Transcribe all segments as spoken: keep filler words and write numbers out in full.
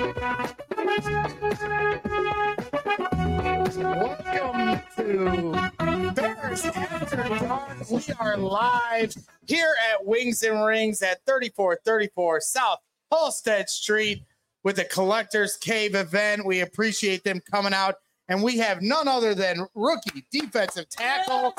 Welcome to Bears After Dark. We are live here at Wings and Rings at thirty-four thirty-four South Halsted Street with the Collectors Cave event. We appreciate them coming out, and we have none other than rookie defensive tackle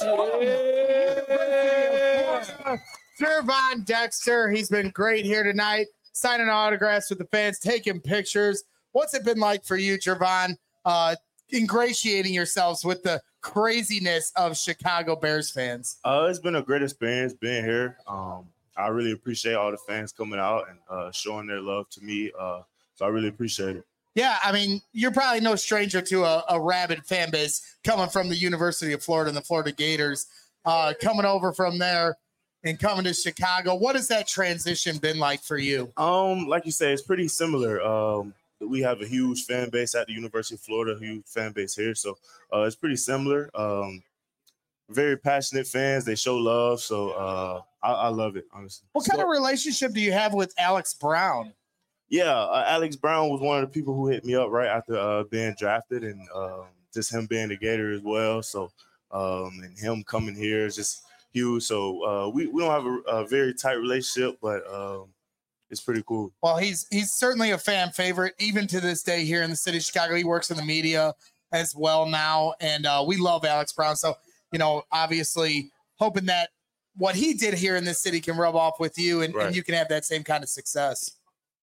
yeah. Gervon Dexter. He's been great here tonight, signing autographs with the fans, taking pictures. What's it been like for you, Gervon, uh, ingratiating yourselves with the craziness of Chicago Bears fans? Uh, it's been a great experience being here. Um, I really appreciate all the fans coming out and uh, showing their love to me. Uh, so I really appreciate it. Yeah, I mean, you're probably no stranger to a, a rabid fan base coming from the University of Florida and the Florida Gators, uh, coming over from there and coming to Chicago. What has that transition been like for you? Um, like you say, it's pretty similar. Um, we have a huge fan base at the University of Florida, a huge fan base here. So uh, it's pretty similar. Um, very passionate fans. They show love. So uh, I, I love it, honestly. What kind so, of relationship do you have with Alex Brown? Yeah, uh, Alex Brown was one of the people who hit me up right after uh, being drafted, and uh, just him being a Gator as well. So um, and him coming here is just huge. So uh, we, we don't have a, a very tight relationship, but um, it's pretty cool. Well, he's he's certainly a fan favorite, even to this day here in the city of Chicago. He works in the media as well now, and uh, we love Alex Brown. So, you know, obviously hoping that what he did here in this city can rub off with you, and, right. and you can have that same kind of success.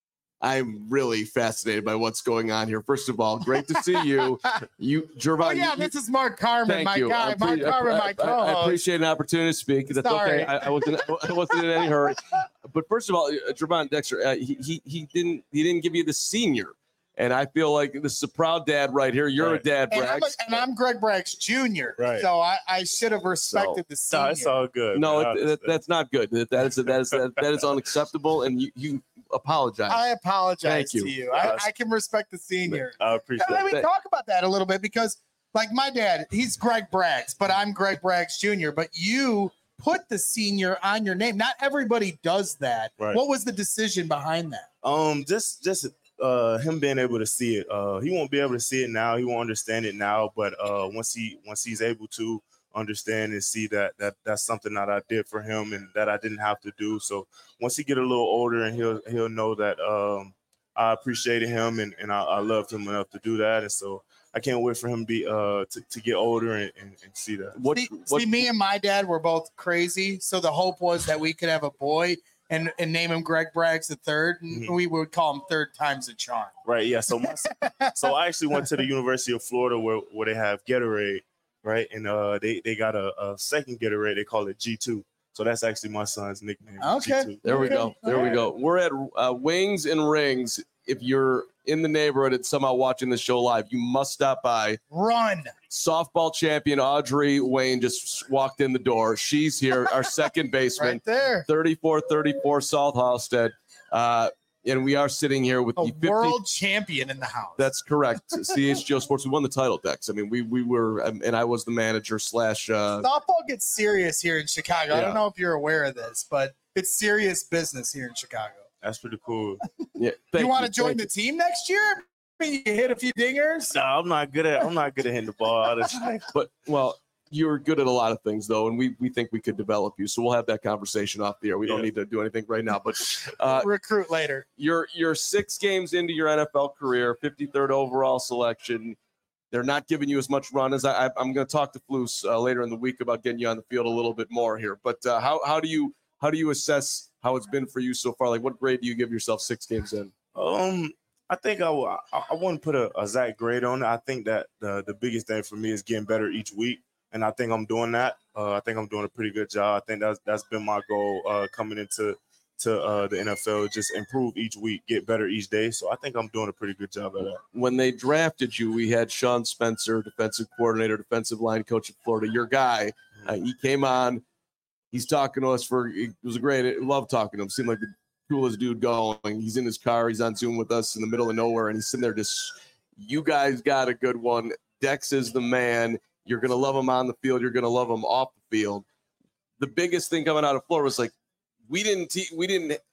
I'm really fascinated by what's going on here. First of all, great to see you. You, Gervon. Oh, yeah, you, this is Mark Carman, my you. guy. Mark Carman, my co-host. I, I appreciate an opportunity to speak. That's Sorry. okay. I, I wasn't. I wasn't in any hurry. But first of all, Gervon Dexter, uh, he, he he didn't he didn't give you the senior, and I feel like this is a proud dad right here. You're right. a dad, and Braggs, I'm, a, and I'm Greg Braggs Junior Right. So I, I should have respected so, the senior. No, it's all good. No, it, that, that's not good. That, that is that is that, that is unacceptable, and you you. apologize. I apologize Thank you. to you. I, I can respect the senior. I appreciate and let me that. talk about that a little bit because, like, my dad, he's Greg Braggs, but I'm Greg Braggs Junior But you put the senior on your name. Not everybody does that. Right. What was the decision behind that? Um, just just uh, him being able to see it. Uh, he won't be able to see it now. He won't understand it now. But uh, once he once he's able to understand and see that that that's something that I did for him and that I didn't have to do. So once he get a little older, and he'll he'll know that um, I appreciated him and, and I, I loved him enough to do that. And so I can't wait for him to be uh to, to get older and, and, and see that. What, see, what, see, me and my dad were both crazy. So the hope was that we could have a boy and, and name him Greg Braggs the third, and mm-hmm. we would call him third times a charm. Right. Yeah. So my, so I actually went to the University of Florida where, where they have Gatorade. Right, and uh, they they got a, a second Gatorade. They call it G two. So that's actually my son's nickname. Okay, G two. There we okay. go. There All we right. go. We're at uh, Wings and Rings. If you're in the neighborhood and somehow watching the show live, you must stop by. Run. Softball champion Audrey Wayne just walked in the door. She's here, our second baseman. Right there. thirty-four thirty-four South Halsted. Uh, and we are sitting here with a the fifty world champion in the house. That's correct. C H G O Sports. We won the title, Dex. I mean, we we were, and I was the manager slash. Uh, Softball gets serious here in Chicago. Yeah. I don't know if you're aware of this, but it's serious business here in Chicago. That's pretty cool. Yeah. You want to join the team next year? You hit a few dingers. No, I'm not good at. I'm not good at hitting the ball. But well, you're good at a lot of things, though, and we we think we could develop you. So we'll have that conversation off the air. We yeah. don't need to do anything right now, but uh, recruit later. You're you're six games into your N F L career, fifty-third overall selection. They're not giving you as much run as I. I I'm going to talk to Flus uh, later in the week about getting you on the field a little bit more here. But uh, how how do you how do you assess how it's been for you so far? Like, what grade do you give yourself six games in? Um. I think I, I, I wouldn't put a, a exact grade on it. I think that the, the biggest thing for me is getting better each week. And I think I'm doing that. Uh, I think I'm doing a pretty good job. I think that's that's been my goal uh, coming into to uh, the N F L, just improve each week, get better each day. So I think I'm doing a pretty good job at that. When they drafted you, we had Sean Spencer, defensive coordinator, defensive line coach at Florida, your guy. Uh, he came on. He's talking to us for – it was a great – I love talking to him. Seemed like the coolest dude going. He's in his car. He's on Zoom with us in the middle of nowhere, and he's sitting there just – you guys got a good one. Dex is the man. You're going to love him on the field. You're going to love him off the field. The biggest thing coming out of Florida was like, we didn't, te- we didn't,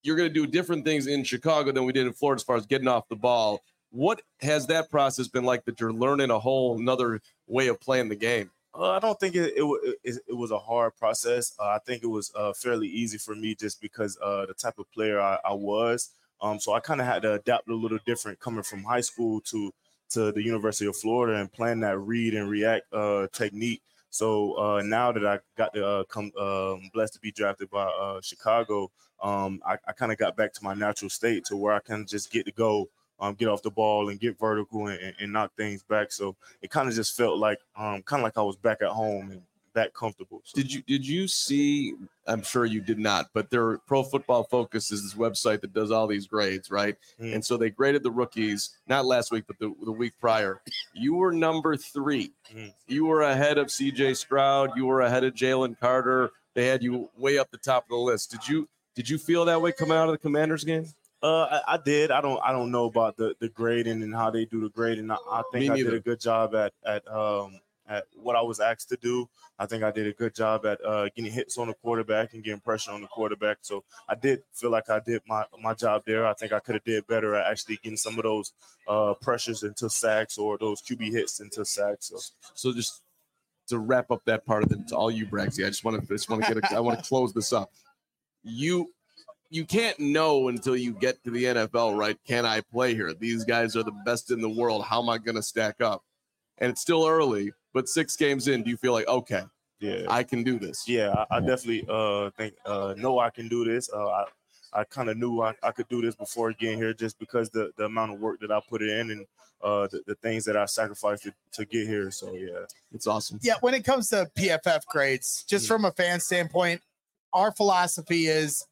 you're going to do different things in Chicago than we did in Florida as far as getting off the ball. What has that process been like that you're learning a whole another way of playing the game? Uh, I don't think it it, it it was a hard process. Uh, I think it was uh, fairly easy for me just because uh, the type of player I, I was. Um, so I kind of had to adapt a little different coming from high school to to the University of Florida and playing that read and react uh, technique. So uh, now that I got to uh, come um, blessed to be drafted by uh, Chicago, um, I, I kind of got back to my natural state to where I can just get to go. Um, get off the ball and get vertical and, and knock things back. So it kind of just felt like um, kind of like I was back at home and that comfortable. So. Did you did you see? I'm sure you did not, but their Pro Football Focus is this website that does all these grades, right? Mm. And so they graded the rookies not last week, but the, the week prior. You were number three. Mm. You were ahead of C J Stroud. You were ahead of Jalen Carter. They had you way up the top of the list. Did you did you feel that way coming out of the Commanders game? Uh, I, I did. I don't. I don't know about the, the grading and how they do the grading. I, I think I did a good job at at um at what I was asked to do. I think I did a good job at uh, getting hits on the quarterback and getting pressure on the quarterback. So I did feel like I did my my job there. I think I could have did better at actually getting some of those uh, pressures into sacks or those Q B hits into sacks. So, so just to wrap up that part of it, to all you Bragsy, I just want to just want to get. A, I want to close this up. You. You can't know until you get to the N F L, right? Can I play here? These guys are the best in the world. How am I going to stack up? And it's still early, but six games in, do you feel like, okay, yeah, I can do this? Yeah, I, I definitely uh, think, uh, know I can do this. Uh, I, I kind of knew I, I could do this before getting here just because the, the amount of work that I put in and uh, the, the things that I sacrificed to, to get here. So, yeah, it's awesome. Yeah, when it comes to P F F grades, just mm-hmm. from a fan standpoint, our philosophy is,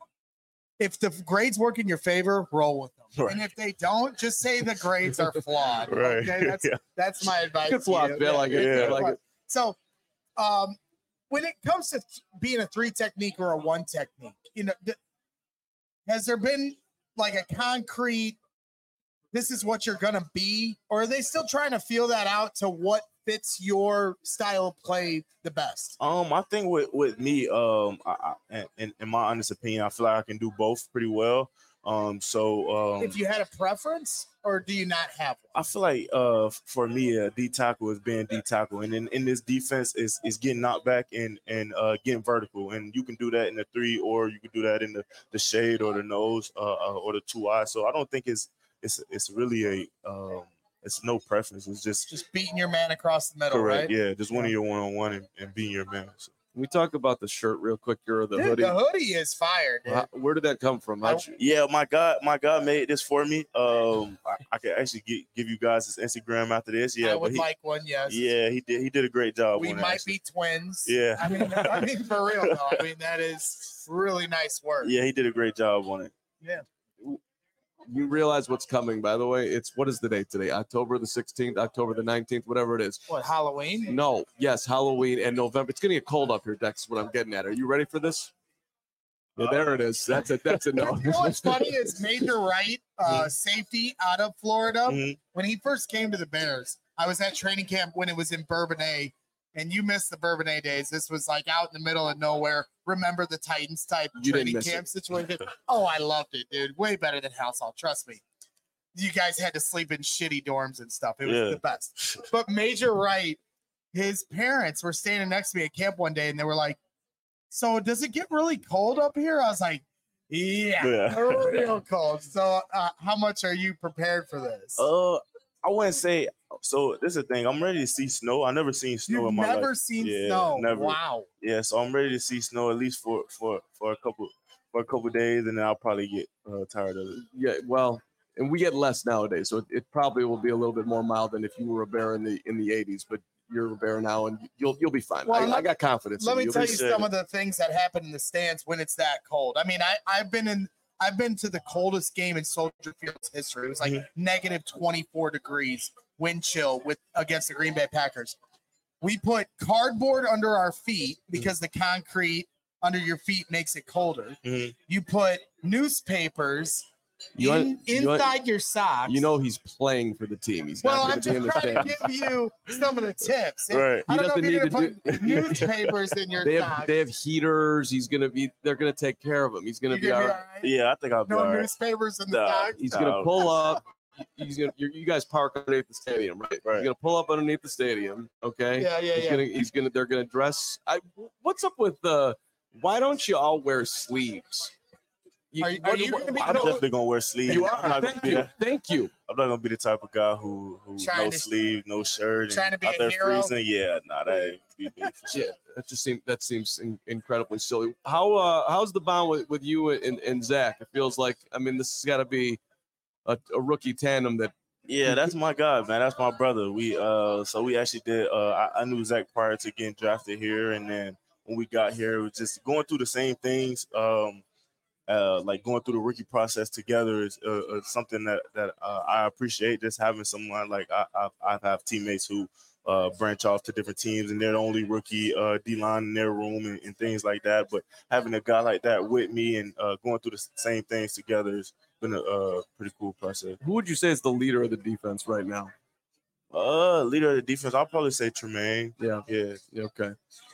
if the grades work in your favor, roll with them. Right. And if they don't, just say the grades are flawed. Right. Okay, that's yeah. that's my advice. Good flawed, Bill. I get it. Like it. So, um, when it comes to being a three technique or a one technique, you know, th- has there been like a concrete, this is what you're gonna be, or are they still trying to feel that out to what fits your style of play the best? Um, I think with, with me, um, I, I, in, in my honest opinion, I feel like I can do both pretty well. Um, so um, if you had a preference, or do you not have one? I feel like uh, for me, a D tackle is being D tackle, and in, in this defense is is getting knocked back and and uh, getting vertical, and you can do that in the three, or you can do that in the, the shade or the nose uh, or the two eyes. So I don't think it's it's it's really a um, it's no preference. It's just just beating your man across the middle, correct, right? Yeah, just winning your one on one and beating your man. So. Can we talk about the shirt real quick here, or the dude, hoodie? The hoodie is fire, dude. How, where did that come from? How'd you... Yeah, my God, my God made this for me. Um, I, I can actually get, give you guys his Instagram after this. Yeah, I would he, like one. Yes. Yeah, he did. He did a great job. We on might that, be twins. Yeah. I mean, I mean for real though. I mean that is really nice work. Yeah, he did a great job on it. Yeah. You realize what's coming, by the way. It's what is the date today? October the sixteenth, October the nineteenth, whatever it is. What, Halloween? No, yes, Halloween and November. It's gonna get cold up here, Dex. Is what I'm getting at. Are you ready for this? Yeah, there it is. That's it. That's a no. You know what's funny is Major Wright, uh, safety out of Florida. Mm-hmm. When he first came to the Bears, I was at training camp when it was in Bourbonnais. And you missed the Bourbonnais days. This was like out in the middle of nowhere. Remember the Titans type you training camp it. situation? Oh, I loved it, dude. Way better than House Hall. Trust me. You guys had to sleep in shitty dorms and stuff. It was yeah. the best. But Major Wright, his parents were standing next to me at camp one day, and they were like, "So does it get really cold up here?" I was like, "Yeah, yeah. real cold." So uh, how much are you prepared for this? Uh, I wouldn't say. So this is the thing. I'm ready to see snow. I never seen snow You've in my life. Never seen yeah, snow. Never. Wow. Yeah, so I'm ready to see snow at least for for for a couple for a couple days, and then I'll probably get uh, tired of it. Yeah, well, and we get less nowadays, so it, it probably will be a little bit more mild than if you were a bear in the in the eighties. But you're a bear now, and you'll you'll be fine. Well, I, let, I got confidence. Let in me you. tell You'll you be some of the things that happen in the stands when it's that cold. I mean, I I've been in. I've been to the coldest game in Soldier Field's history. It was like mm-hmm. negative twenty-four degrees wind chill with against the Green Bay Packers. We put cardboard under our feet because mm-hmm. the concrete under your feet makes it colder. Mm-hmm. You put newspapers You in, un- you un- inside your socks. You know he's playing for the team. He's well, not I'm going to be in just the trying to stands. give you some of the tips. Right. I He don't know if doesn't you're need going to to put newspapers in your They socks. have they have heaters. He's going to be. They're going to take care of him. He's going to You be gonna all be right. all right? Yeah, I think I'll be No all right. newspapers in the No. socks. He's going to No. pull up. He's gonna. You're, you guys park underneath the stadium, right? Right. He's gonna pull up underneath the stadium. Okay. Yeah, yeah, He's yeah. gonna. He's gonna. They're gonna dress. I. What's up with the? Why don't you all wear sleeves? You, Are you- what- are you what- gonna be- I'm definitely gonna wear sleeves. You I'm are. not gonna Thank be you. that. Thank you. I'm not gonna be the type of guy who who Trying no to- sleeve, no shirt, trying to and be out a there hero? freezing. Yeah, nah, that ain't be me for sure. Yeah, that just seems that seems in, incredibly silly. How uh how's the bond with, with you and, and Zach? It feels like I mean this has got to be a, a rookie tandem that Yeah, that's my guy, man. That's my brother. We uh, so we actually did. Uh, I, I knew Zach prior to getting drafted here, and then when we got here, it was just going through the same things. Um, uh, like going through the rookie process together is uh, uh, something that that uh, I appreciate. Just having someone like I I, I have teammates who uh, branch off to different teams, and they're the only rookie uh, D line in their room and, and things like that. But having a guy like that with me and uh, going through the same things together is been a uh, pretty cool process. who would you say is the leader of the defense right now? Uh, leader of the defense, I'll probably say Tremaine. Yeah. Yeah, Yeah, okay.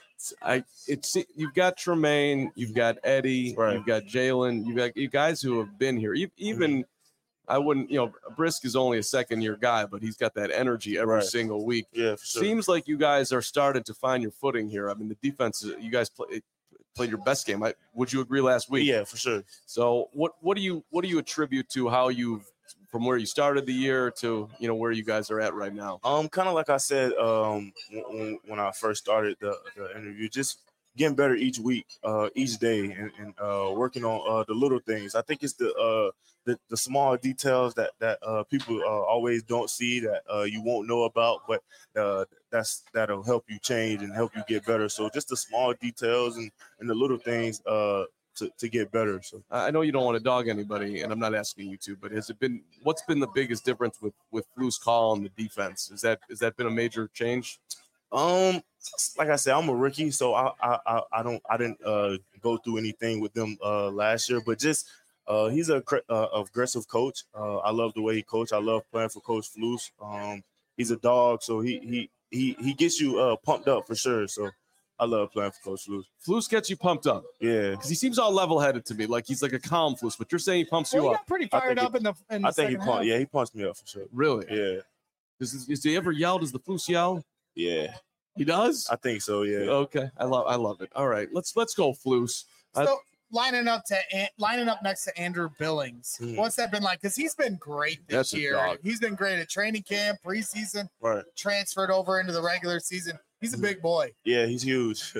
I it's you've got Tremaine, you've got Eddie, Right. you've got Jalen, you've got you guys who have been here. You, even I wouldn't, you know, Brisk is only a second year guy, but he's got that energy every Right. single week. yeah, for sure. Seems like you guys are starting to find your footing here. I mean, the defense, you guys play, played your best game. I, would you agree last week? Yeah, for sure. So what what do you what do you attribute to how you've from where you started the year to you know where you guys are at right now? Um, kind of like I said, um, when, when I first started the, the interview, just getting better each week, uh, each day, and, and uh, working on uh, the little things. I think it's the uh, the, the small details that that uh, people uh, always don't see that uh, you won't know about, but uh, that's that'll help you change and help you get better. So just the small details and, and the little things uh, to to get better. So. I know you don't want to dog anybody, and I'm not asking you to, but has it been what's been the biggest difference with with Flu's call on the defense? Is that has that been a major change? Um, like I said, I'm a rookie, so I I I, I don't I didn't uh, go through anything with them uh, last year, but just uh, he's a cr- uh, aggressive coach. Uh, I love the way he coach. I love playing for Coach Flus. Um, he's a dog, so he he he he gets you uh, pumped up for sure. So I love playing for Coach Flus. Flus gets you pumped up Yeah, because he seems all level-headed to me, like he's like a calm Flus, but you're saying he pumps Well, you he up. got pretty I fired think up in the in the I think he second pumped. half. Yeah, he punched me up for sure. Really? Yeah, Does, does he ever yell? Does the Flus yell? yeah, He does. I think so. Yeah. Okay, I love I love it. All right, let's let's go Flus. I- So lining up to An- lining up next to Andrew Billings, Hmm. what's that been like? Because he's been great this That's a year. dog. He's been great at training camp, preseason, Right. transferred over into the regular season. He's a Hmm. big boy. Yeah, he's huge.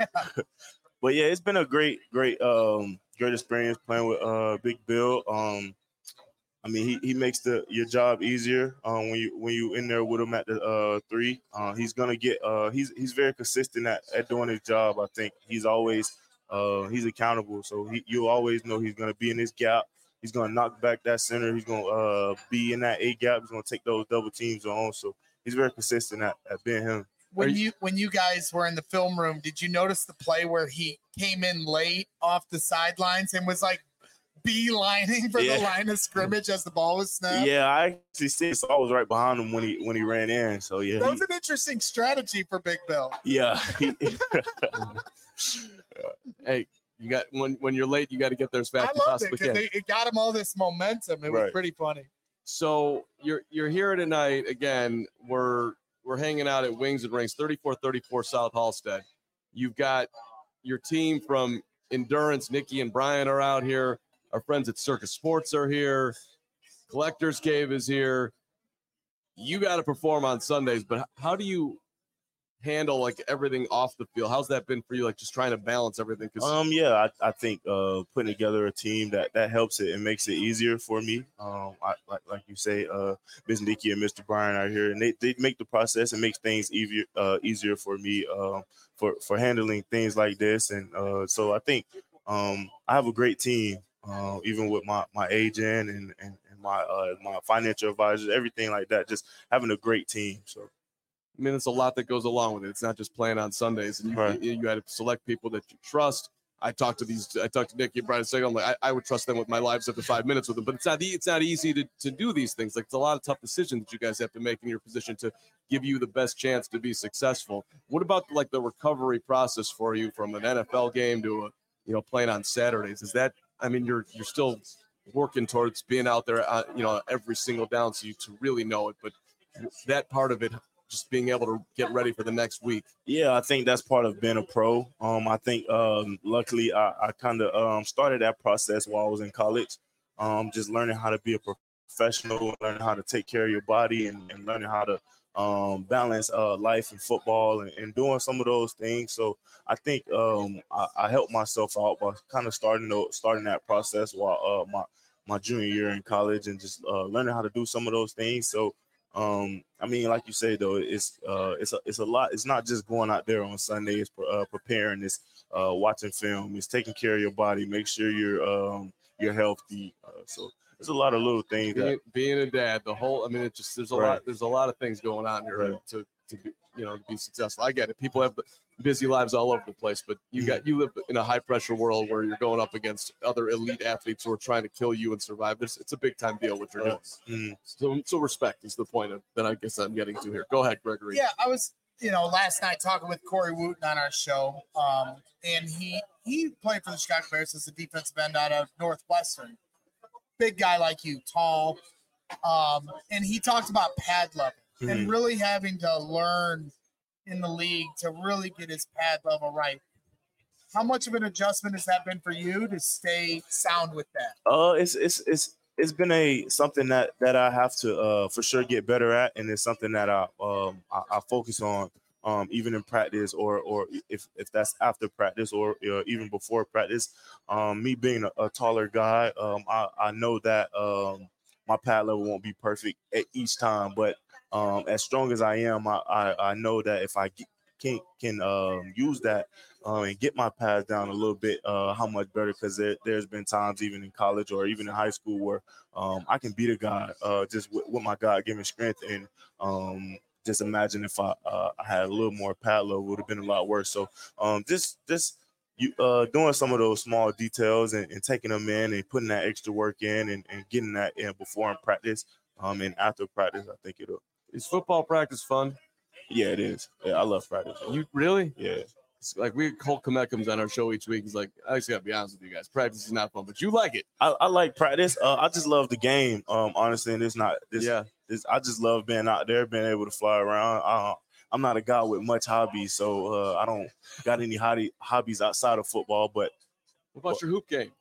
But yeah, it's been a great, great, um, great experience playing with uh Big Bill. Um, I mean, he, he makes the your job easier um, when you when you in there with him at the uh, three. Uh, he's gonna get. Uh, he's he's very consistent at, at doing his job. I think he's always uh, he's accountable. So he, you always know he's gonna be in his gap. He's gonna knock back that center. He's gonna uh, be in that A gap. He's gonna take those double teams on. So he's very consistent at, at being him. When Are you when you guys were in the film room, did you notice the play where he came in late off the sidelines and was like beelining for Yeah. the line of scrimmage as the ball was snapped? Yeah, I actually see. So I was right behind him when he when he ran in. So yeah, That he- was an interesting strategy for Big Bill. yeah. he- Hey, you got when when you're late, you got to get there as fast I as you loved it possibly because can. it got him all this momentum. It was Right. pretty funny. So you're you're here tonight again. We're we're hanging out at Wings and Rings, thirty-four thirty-four South Halstead. You've got your team from Endurance, Nikki and Brian are out here. Our friends at Circus Sports are here. Collectors Cave is here. You got to perform on Sundays, but how do you handle like everything off the field? How's that been for you? Like just trying to balance everything? Because Um, yeah, I, I think uh, putting together a team that that helps it and makes it easier for me. Um, I, like like you say, uh, Miz Nikki and Mister Brian are here, and they, they make the process and makes things easier uh, easier for me uh, for for handling things like this. And uh, so I think um, I have a great team, uh, even with my my agent and and, and my uh, my financial advisors, everything like that. Just having a great team. So. I mean, it's a lot that goes along with it. It's not just playing on Sundays, and you Right. you, you got to select people that you trust. I talked to these, I talked to Nicky and Brian Sagal. I'm like, I, I would trust them with my lives after five minutes with them, but it's not, it's not easy to, to do these things. Like, it's a lot of tough decisions that you guys have to make in your position to give you the best chance to be successful. What about like the recovery process for you from an N F L game to a, you know, playing on Saturdays? Is that, I mean, you're, you're still working towards being out there, uh, you know, every single down so you to really know it, but that part of it, just being able to get ready for the next week. Yeah, I think that's part of being a pro. Um, I think um, luckily I, I kind of um, started that process while I was in college, um, just learning how to be a professional, learning how to take care of your body, and, and learning how to um, balance uh, life and football, and, and doing some of those things. So I think um, I, I helped myself out by kind of starting to, starting that process while uh, my my junior year in college, and just uh, learning how to do some of those things. So. Um, I mean, like you say though, it's uh, it's a it's a lot. It's not just going out there on Sunday. It's uh, preparing. It's uh, watching film. It's taking care of your body. Make sure you're um, you're healthy. Uh, so there's a lot of little things. Being, That, being a dad, the whole. I mean, it just there's a Right. lot. There's a lot of things going on here Right. to to be, you know, to be successful. I get it. People have busy lives all over the place, but you got you live in a high pressure world where you're going up against other elite athletes who are trying to kill you and survive. This it's a big time deal what you're doing. mm, So, so respect is the point of, that I guess I'm getting to here. Go ahead, Gregory. Yeah, I was, you know, last night talking with Corey Wooten on our show, um, and he he played for the Chicago Bears as a defensive end out of Northwestern. Big guy like you, tall, um, and he talked about pad level and Mhm. really having to learn in the league to really get his pad level right. How much of an adjustment has that been for you to stay sound with that? Uh, it's it's it's it's been a something that that I have to uh for sure get better at, and it's something that I um I, I focus on um even in practice, or or if if that's after practice, or uh, even before practice. Um, me being a, a taller guy, um, I I know that um my pad level won't be perfect at each time, but um as strong as I am, I I, I know that if I get, can can um use that um, and get my pads down a little bit, uh, how much better, because there, there's been times even in college or even in high school where um, I can beat a guy uh, just with, with my God-given strength. And um, just imagine if I, uh, I had a little more pad level, it would have been a lot worse. So um, just just you uh, doing some of those small details, and, and taking them in and putting that extra work in, and, and getting that in before in practice um, and after practice, I think it'll. Is football practice fun? Yeah, it is. Yeah, I love practice. You really? Yeah. It's like we Colt Komet comes on our show each week. He's like, I just gotta be honest with you guys. Practice is not fun, but you like it. I, I like practice. Uh, I just love the game. Um, honestly, and it's not. This, Yeah. This, I just love being out there, being able to fly around. Uh, I'm not a guy with much hobbies, so uh, I don't got any hobby, hobbies outside of football. But What about your hoop game?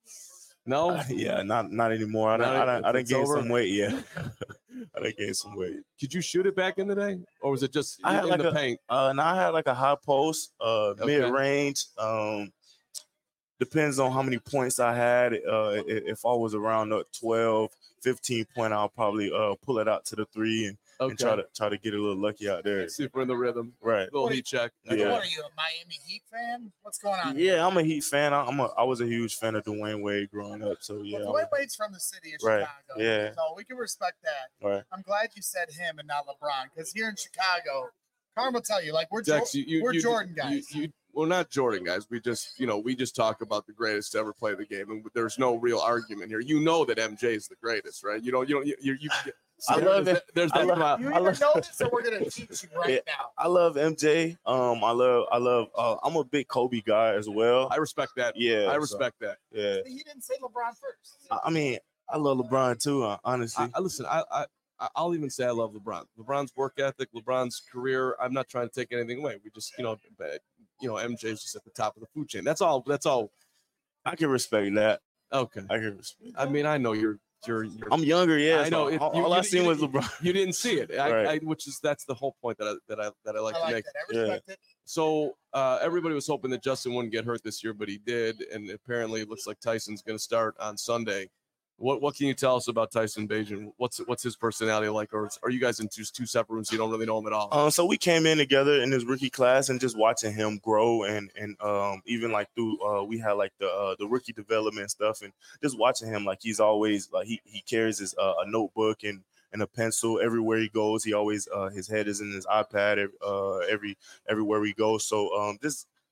No. uh, yeah, not not anymore. I Not done, I done, I done it's gained over? some weight. Yeah, I done gained some weight. Could you shoot it back in the day, or was it just I had in like the a- paint? Uh, and I had like a high post, uh, Okay. mid range. Um, depends on how many points I had. Uh, i- if I was around the twelve, fifteen point, I'll probably uh pull it out to the three, and, Okay. and try to try to get a little lucky out there. See if we're in the rhythm. Right. Little What- heat check. Yeah. What are you, a Miami Heat fan? What's going on? Yeah, I'm a Heat fan. I- I'm a I was a huge fan of Dwayne Wade growing up. So yeah. Well, I'm a- Dwayne Wade's from the city of Right. Chicago. Yeah. So we can respect that. Right. I'm glad you said him and not LeBron, because here in Chicago, Carm will tell you, like, we're, Jo- Dex, you, you, we're you, Jordan you- guys. You, well, not Jordan guys. We just, you know, we just talk about the greatest to ever play the game, and there's no real argument here. You know that M J is the greatest, right? You know, you don't, you, you, you I there- love there's it. that- There's I that. love- amount- You I either love- know this or we're going to teach you right Yeah. now. I love M J. Um, I love I love. Uh, I'm a big Kobe guy as well. I respect that. Yeah. I so, respect that. yeah. He didn't say LeBron first. I, I mean, I love LeBron too. Uh, honestly. I, I listen. I, I I'll even say I love LeBron. LeBron's work ethic, LeBron's career. I'm not trying to take anything away. We just, you know, but, you know, M J's just at the top of the food chain. That's all. That's all. I can respect that. Okay. I can respect. I mean, I know you're you're. you're I'm younger, yeah. I know. So It- all you- all I you- seen you- was LeBron. You didn't see it, I, Right. I, which is that's the whole point that I that I that I like I to like make. that. I Yeah. respect it. So uh, everybody was hoping that Justin wouldn't get hurt this year, but he did, and apparently it looks like Tyson's going to start on Sunday. What what can you tell us about Tyson Bagent? What's what's his personality like, or are you guys in two, two separate rooms? So you don't really know him at all. Um, so we came in together in his rookie class, and just watching him grow, and and um, even like through uh, we had like the uh, the rookie development stuff, and just watching him, like he's always like he he carries his uh, a notebook and and a pencil everywhere he goes. He always uh, his head is in his iPad uh, every everywhere we go. So um, just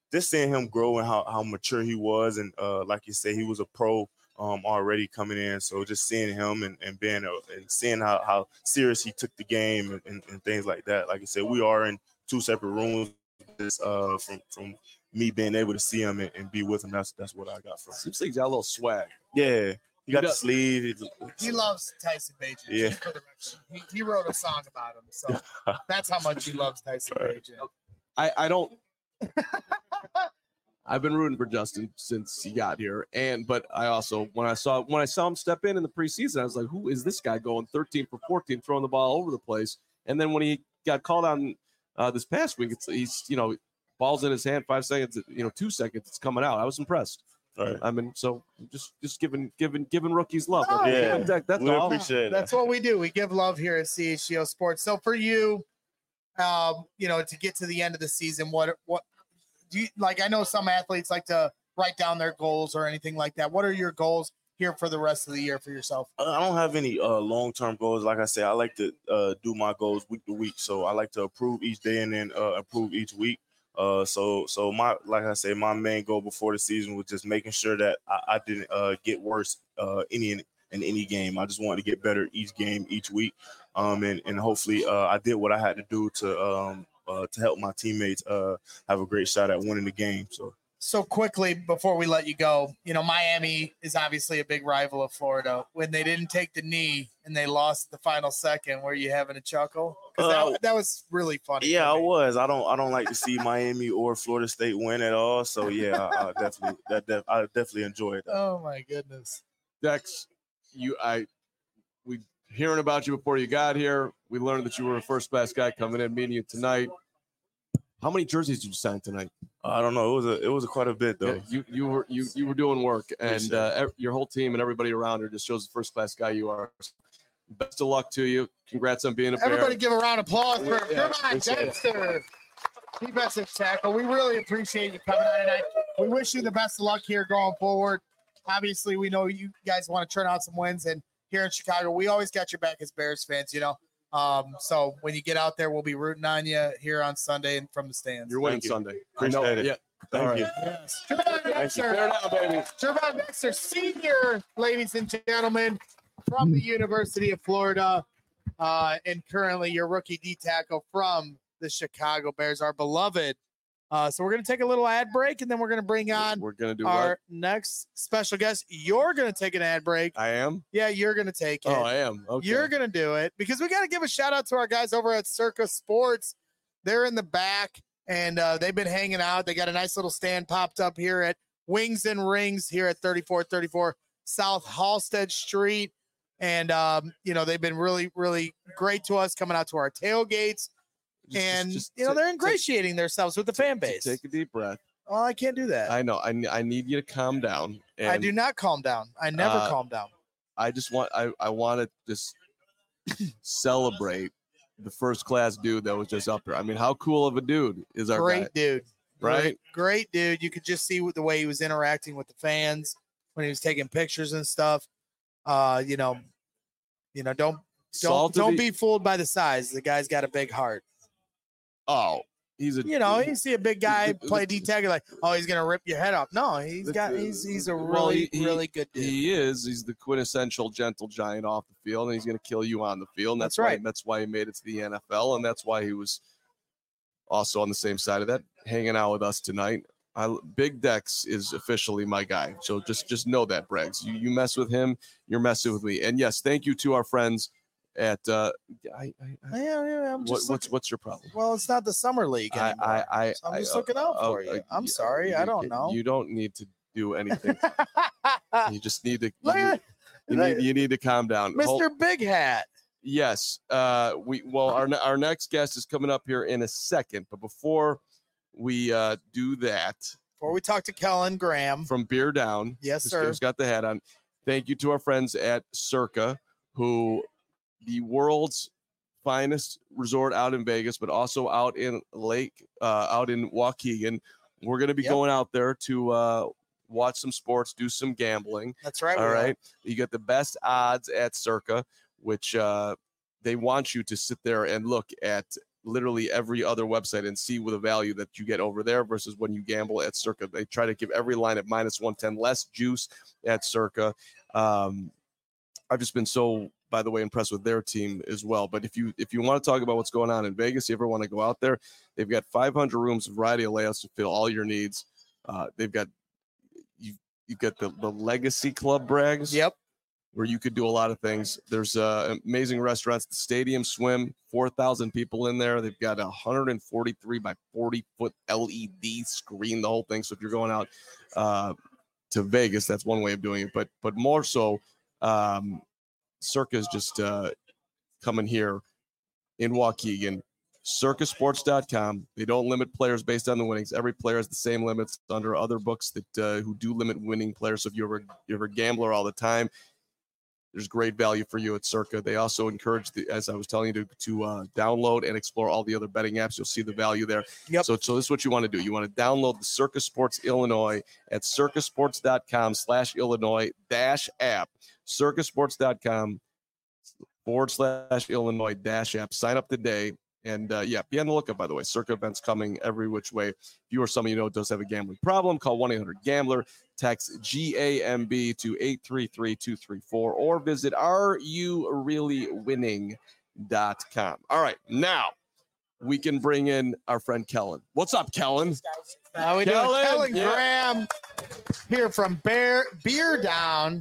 just seeing him grow and how, how mature he was. And uh, like you said, he was a pro um, already coming in. So just seeing him and, and being a, and seeing how, how serious he took the game and, and, and things like that. Like I said, we are in two separate rooms uh, from, from me being able to see him and, and be with him. That's, that's what I got from him. Seems like he's got a little swag. Yeah. He got He the does. sleeve. He loves Tyson Bagent. Yeah. For the record. He, he wrote a song about him, so that's how much he loves Tyson Bagent. I, I don't. I've been rooting for Justin since he got here, and but I also when I saw when I saw him step in in the preseason, I was like, "Who is this guy going thirteen for fourteen, throwing the ball all over the place?" And then when he got called on uh, this past week, it's he's you know balls in his hand, five seconds, you know, two seconds, it's coming out. I was impressed. Right. I mean, so just just giving giving giving rookies love. Oh, yeah. That's We all. appreciate That's what we do. We give love here at C H G O Sports. So for you, um, you know, to get to the end of the season, what what do you like? I know some athletes like to write down their goals or anything like that. What are your goals here for the rest of the year for yourself? I don't have any uh, long-term goals. Like I said, I like to uh, do my goals week to week. So I like to improve each day and then uh, improve each week. Uh, so, so my, like I said, my main goal before the season was just making sure that I, I didn't uh, get worse uh, any in, in any game. I just wanted to get better each game, each week, um, and and hopefully uh, I did what I had to do to um, uh, to help my teammates uh, have a great shot at winning the game. So. So quickly before we let you go, you know, Miami is obviously a big rival of Florida. When they didn't take the knee and they lost the final second, were you having a chuckle? Because Uh, that, that was really funny. Yeah, for I me. was. I don't. I don't like to see Miami or Florida State win at all. So yeah, I, I definitely. That def, I definitely enjoyed that. Oh my goodness. Dex, you I we hearing about you before you got here. We learned that you were a first class guy coming in, meeting you tonight. How many jerseys did you sign tonight? I don't know. It was a. It was a quite a bit though. Yeah, you you were you you were doing work, and sir. uh, ev- your whole team and everybody around her just shows the first class guy you are. Best of luck to you. Congrats on being a Bear. Everybody give a round of applause for Yeah, come on, appreciate it. Dexter. Defensive tackle. We really appreciate you coming on tonight. We wish you the best of luck here going forward. Obviously, we know you guys want to turn out some wins, and here in Chicago, we always got your back as Bears fans, you know. Um, so when you get out there, we'll be rooting on you here on Sunday and from the stands. You're winning Thank you. Sunday. Appreciate I know, it. Yeah. Thank All right. you. Yes. Trevon Dexter, Fair down, baby. Trevon Dexter, senior, ladies and gentlemen, from the University of Florida, uh, and currently your rookie D tackle from the Chicago Bears, our beloved. Uh, so we're going to take a little ad break, and then we're going to bring on We're gonna do our what? next special guest. You're going to take an ad break. I am. Yeah, you're going to take it. Oh, I am. Okay. You're going to do it because we got to give a shout out to our guys over at Circa Sports. They're in the back, and uh, they've been hanging out. They got a nice little stand popped up here at Wings and Rings here at thirty-four thirty-four South Halsted Street. And, um, you know, they've been really, really great to us coming out to our tailgates. Just- and, just- you know, just they're take- ingratiating themselves with the fan take- base. Take a deep breath. Oh, I can't do that. I know. I, ne- I need you to calm down. And I do not calm down. I never uh, calm down. I just want I, I want to just celebrate the first class dude that was just up here. I mean, how cool of a dude is our Great guy? dude. Right? Great, great dude. You could just see the way he was interacting with the fans when he was taking pictures and stuff. Uh, you know, you know, don't don't Salt of don't the- be fooled by the size. The guy's got a big heart. Oh, he's a You know, you see a big guy the- play D tag, you're like, oh, he's gonna rip your head off. No, he's the- got he's he's a well, really he- he- really good dude. He is. He's the quintessential gentle giant off the field, and he's going to kill you on the field. And that's, That's right. Why, that's why he made it to the N F L, and that's why he was also on the same side of that, hanging out with us tonight. I, Big Dex is officially my guy, so just just know that, Braggs. You you mess with him, you're messing with me. And yes, thank you to our friends at. Uh, I, I, I, yeah, yeah, I'm what, just what's looking- what's your problem? well, it's not the summer league I, anymore. I, I, So I'm I- just looking out uh, for uh, you. uh, I'm you- sorry, I you don't can- know. You don't need to do anything. You just need to. Look You, at you need, you need to calm down. Hold- Mister Big Hat. Yes. Uh, we well, our our next guest is coming up here in a second, but before we uh, do that, Before we talk to Kellen Graham. from Beer Down, Yes, who's- sir. who's got the hat on. Thank you to our friends at Circa, who the world's finest resort out in Vegas, but also out in Lake, uh, out in Waukegan. We're going to be Yep. going out there to uh, watch some sports, do some gambling. That's right. All we are. right. You get the best odds at Circa, which uh, they want you to sit there and look at literally every other website and see with the value that you get over there versus when you gamble at Circa. They try to give every line at minus one ten, less juice at Circa. Um, I've just been so, by the way, impressed with their team as well. But if you if you want to talk about what's going on in Vegas, you ever want to go out there, they've got five hundred rooms, a variety of layouts to fill all your needs. Uh, they've got you you've got the, the Legacy Club brags. Yep. Where you could do a lot of things. There's uh, amazing restaurants, the Stadium Swim, four thousand people in there. They've got a one hundred forty-three by forty foot L E D screen, the whole thing. So if you're going out uh, to Vegas, that's one way of doing it. But but more so, um, Circa is just uh, coming here in Waukegan. Circa Sports dot com. They don't limit players based on the winnings. Every player has the same limits under other books that uh, who do limit winning players. So if you're a, you're a gambler all the time, there's great value for you at Circa. They also encourage, the, as I was telling you, to, to uh, download and explore all the other betting apps. You'll see the value there. Yep. So, so this is what you want to do. You want to download the Circa Sports Illinois at circa sports dot com slash Illinois dash app. circa sports dot com forward slash Illinois dash app. Sign up today. And uh, yeah, be on the lookout, by the way. Circa events coming every which way. If you or someone you know does have a gambling problem, call one eight hundred gambler. Text G A M B to eight three three two three four or visit are you really winning dot com. All right, now we can bring in our friend Kellen. What's up, Kellen? How we Kellen, doing? Kellen yeah. Graham here from Bear Beer Down.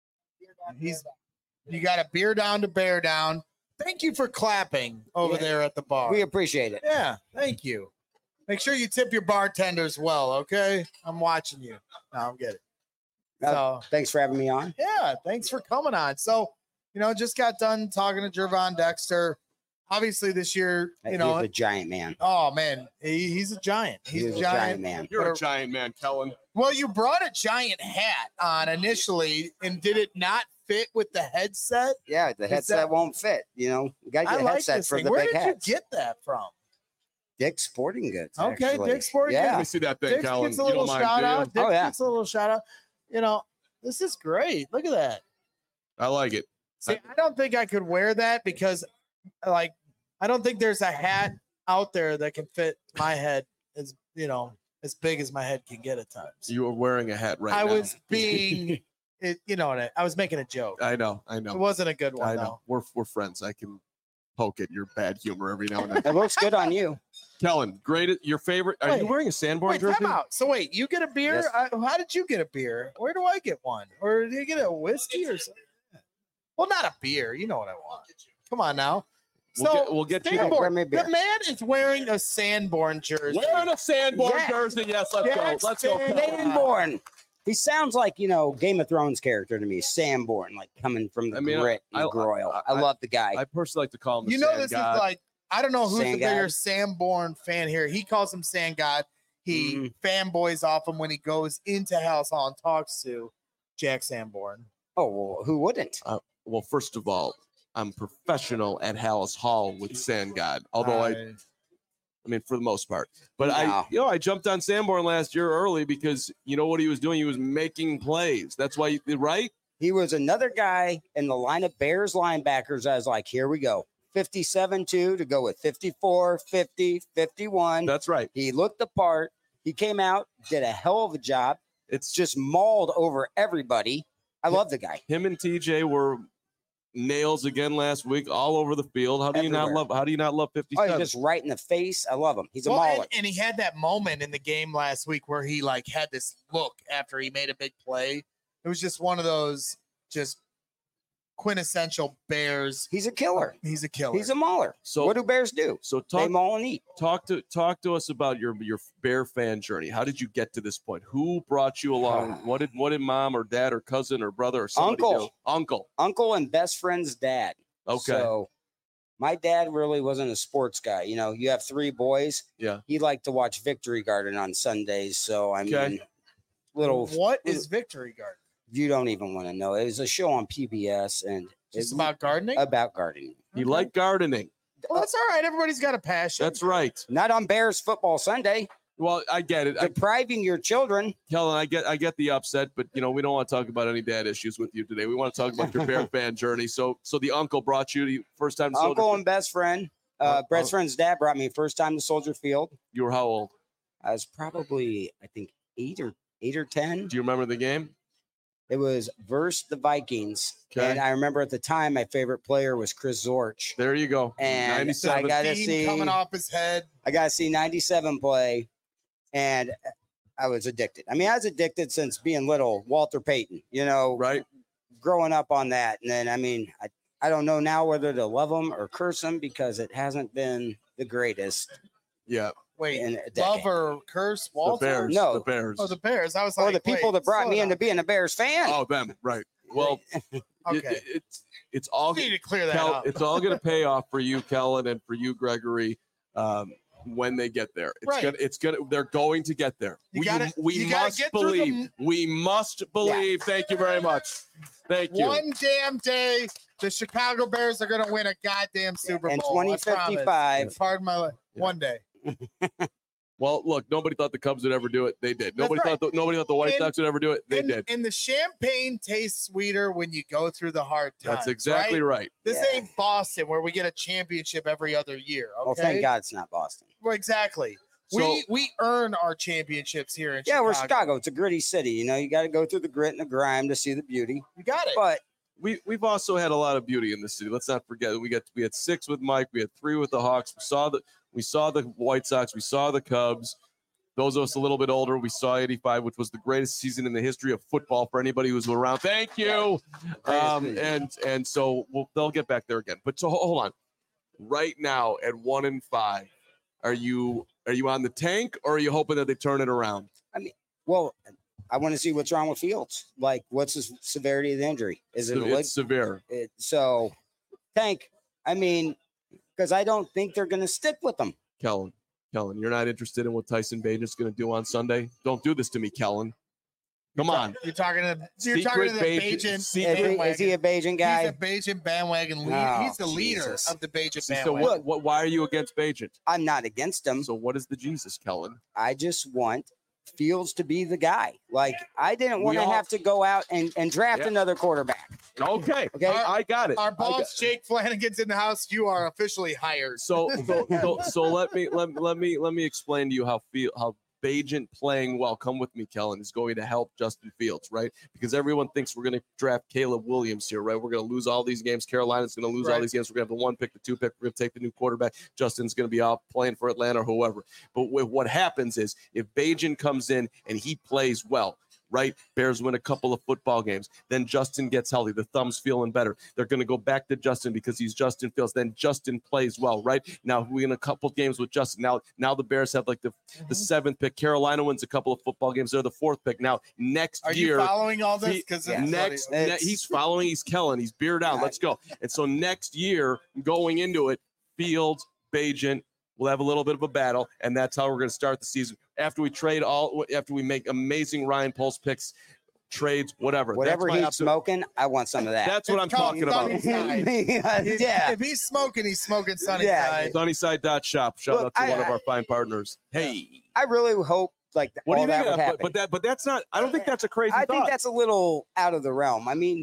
He's you got a beer down to Bear Down. Thank you for clapping over Yeah. there at the bar. We appreciate it. Yeah, thank you. Make sure you tip your bartenders well, okay? I'm watching you. No, I'm getting. Uh, So Thanks for having me on. yeah, thanks for coming on. So, you know, just got done talking to Jervon Dexter. Obviously, this year, you He's know, a giant man. oh man, he, he's a giant. He's, He's a giant. man. You're a giant man, Kellen. Well, you brought a giant hat on initially, and did it not fit with the headset? Yeah, the Is headset that- won't fit. You know, you got to I get a like headset this for thing. the Where big did hats. you get that from? Dick's Sporting Goods. Okay, actually. Dick's Sporting yeah. Let me see that thing, Dick Kellen. gets a You little don't mind, shout do you? out. Dick Oh, yeah. gets a little shout out. You know, this is great. Look at that. I like it. See, I don't think I could wear that because, like, I don't think there's a hat out there that can fit my head as you know as big as my head can get at times. You are wearing a hat right I now. was being, it, you know, what I, I was making a joke. I know. I It know. wasn't a good one I know. though. We're we're friends. I can poke at your bad humor every now and then. It looks good on you. Kellen, great. Your favorite? Are Wait. you wearing a Sanborn Wait, jersey? time out. So wait, you get a beer? Yes. I, how did you get a beer? Where do I get one? Or do you get a whiskey or something? Well, not a beer. You know what I want. Come on now. We'll So get- we'll get you- Sanborn, Grab me a beer. the man is wearing a Sanborn jersey. Wearing a Sanborn Yeah. jersey. Yes, let's Yes, go. Let's go. man. Kellen. Sanborn. He sounds like, you know, Game of Thrones character to me. Sanborn, like coming from the I mean, grit I- and groil. I- I, I- love the guy. I personally like to call him. The You know, Sand this God. is like, I don't know who's Sand the bigger God. Sanborn fan here. He calls him Sand God. He Mhm. fanboys off him when he goes into House Hall and talks to Jack Sanborn. oh, well, who wouldn't? Well, first of all, I'm professional at Hallis Hall with Sand God. Although I, I mean, for the most part. But I, No. you know, I jumped on Sanborn last year early because you know what he was doing. He was making plays. That's why, right? He was another guy in the line of Bears linebackers. I was like, here we go. fifty-seven two to go with fifty-four, fifty, fifty-one. That's right. He looked the part. He came out, did a hell of a job, It's just mauled over everybody. I love the guy. him and T J were nails again last week, all over the field. How do you not Everywhere. love? How do you not love Oh, fifty-seven? he's just right in the face. I love him. He's a Well, mauler. and, and he had that moment in the game last week where he like had this look after he made a big play. It was just one of those just quintessential Bears. He's a killer. He's a killer. He's a mauler. So- what do bears do? so They talk maul and eat. talk to talk to us about your your Bear fan journey. How did you get to this point? Who brought you along? What did what did mom or dad or cousin or brother or somebody Uncle. do? Uncle. Uncle and best friend's dad. Okay. So my dad really wasn't a sports guy. You know, you have three boys. Yeah. He liked to watch Victory Garden on Sundays. So I mean, Okay. little What is Victory Garden? you don't even want to know. It was a show on P B S and Just it's about gardening? about gardening. He liked gardening. Well, that's all right. Everybody's got a passion. That's right. Not on Bears football Sunday. Well, I get it. I, Depriving your children. Kellen, I get I get the upset, but you know we don't want to talk about any dad issues with you today. We want to talk about your Bear fan journey. So, so the uncle brought you the first time. to Uncle Soldier- and best friend. Uh, Oh, Brett's oh. friend's dad brought me first time to Soldier Field. You were how old? I was probably, I think, eight or eight or ten. Do you remember the game? It was versus the Vikings, Okay. and I remember at the time my favorite player was Chris Zorch. There you go. And I ninety-seven. got to Steam see coming off his head. I got to see ninety-seven play, and I was addicted. I mean, I was addicted since being little. Walter Payton, you know, Right. growing up on that, and then I mean, I I don't know now whether to love him or curse him because it hasn't been the greatest Yeah. Wait, in a love decade. or curse The Walter? Bears. No. The Bears. Oh, the Bears. I was like, Or the people wait, that brought slow me down. into being a Bears fan. Oh, them. Right. Well, it- Okay, it- it's it's all we need to clear that Kel, up. it's all going to pay off for you, Kellen, and for you, Gregory, um, when they get there. It's Right. gonna, it's gonna, they're going to get there. You we gotta- we you gotta must get through the- believe. We must believe. Thank you very much. Thank you. One damn day, the Chicago Bears are going to win a goddamn Super In Bowl. twenty I promise. fifty-five, Pardon my li- Yeah. one day. Well, look, nobody thought the Cubs would ever do it. They did. Nobody right. thought the, nobody thought the White And- Sox would ever do it. They and, did. and the champagne tastes sweeter when you go through the hard times. That's exactly right. right. This Yeah. ain't Boston where we get a championship every other year. Okay. well, thank God it's not Boston. Well, exactly. So- we we earn our championships here in Yeah, Chicago. we're Chicago. It's a gritty city. You know, you got to go through the grit and the grime to see the beauty. You got it. But We we've also had a lot of beauty in the city. Let's not forget we got we had six with Mike. We had three with the Hawks. We saw the we saw the White Sox. We saw the Cubs. Those of us a little bit older, we saw eighty-five, which was the greatest season in the history of football for anybody who's around. Thank you. Greatest Um, season. and and so we'll, they'll get back there again. But so hold on. Right now at one and five, are you are you on the tank or are you hoping that they turn it around? well, I want to see what's wrong with Fields. Like, what's the severity of the injury? Is it a So leg? it's severe. It, so, tank. I mean, because I don't think they're going to stick with them. Kellen, Kellen, you're not interested in what Tyson Bagent's going to do on Sunday? Don't do this to me, Kellen. Come on. You're talking to you're talking to the Secret Bajan Bajan- Is secret- he, bandwagon. is he a Bajan He's guy? a Bajan bandwagon leader. Oh, He's the leader Jesus. of the Bajan So bandwagon. what, what? Why are you against Bagent? I'm not against him. So what is the Jesus, Kellen? I just want Fields to be the guy. Like, I didn't We want to all- have to go out and, and draft Yeah. another quarterback. Okay, Okay. Our- I got it. Our I got- boss Jake Flanagan's in the house. You are officially hired. So, so, so, so let me let, let me let me explain to you how feel how Bagent playing well. Come with me, Kellen, is going to help Justin Fields, right? Because everyone thinks we're going to draft Caleb Williams here, right? We're going to lose all these games. Carolina's going to lose all Right. these games. We're going to have the one pick, the two pick. We're going to take the new quarterback. Justin's going to be out playing for Atlanta or whoever. But with what happens is if Bagent comes in and he plays well, right? Bears win a couple of football games. Then Justin gets healthy. The thumb's feeling better. They're going to go back to Justin because he's Justin Fields. Then Justin plays well, right? Now we in a couple games with Justin. Now, now the Bears have like the, the seventh pick. Carolina wins a couple of football games. They're the fourth pick. Now next Are you year, following all this? he- Because Yeah. next ne- It's- he's following. He's Kellen. He's beard out. Let's go. And so next year, going into it, Fields, Bagent. We'll have a little bit of a battle, and that's how we're going to start the season. After we trade all, after we make amazing Ryan Poles picks, trades, whatever. Whatever That's my he's absolute- smoking, I want some of that. That's what I'm It's called talking about. If- yeah. If he's smoking, he's smoking Sunny Yeah. Side. Sunnyside dot shop. Shout Look, out to I- one of I- our fine partners. Hey, I really hope like what do all you think? that Of would that? happen. But, but that, but that's not. I don't think that's a crazy I thought. think that's a little out of the realm. I mean,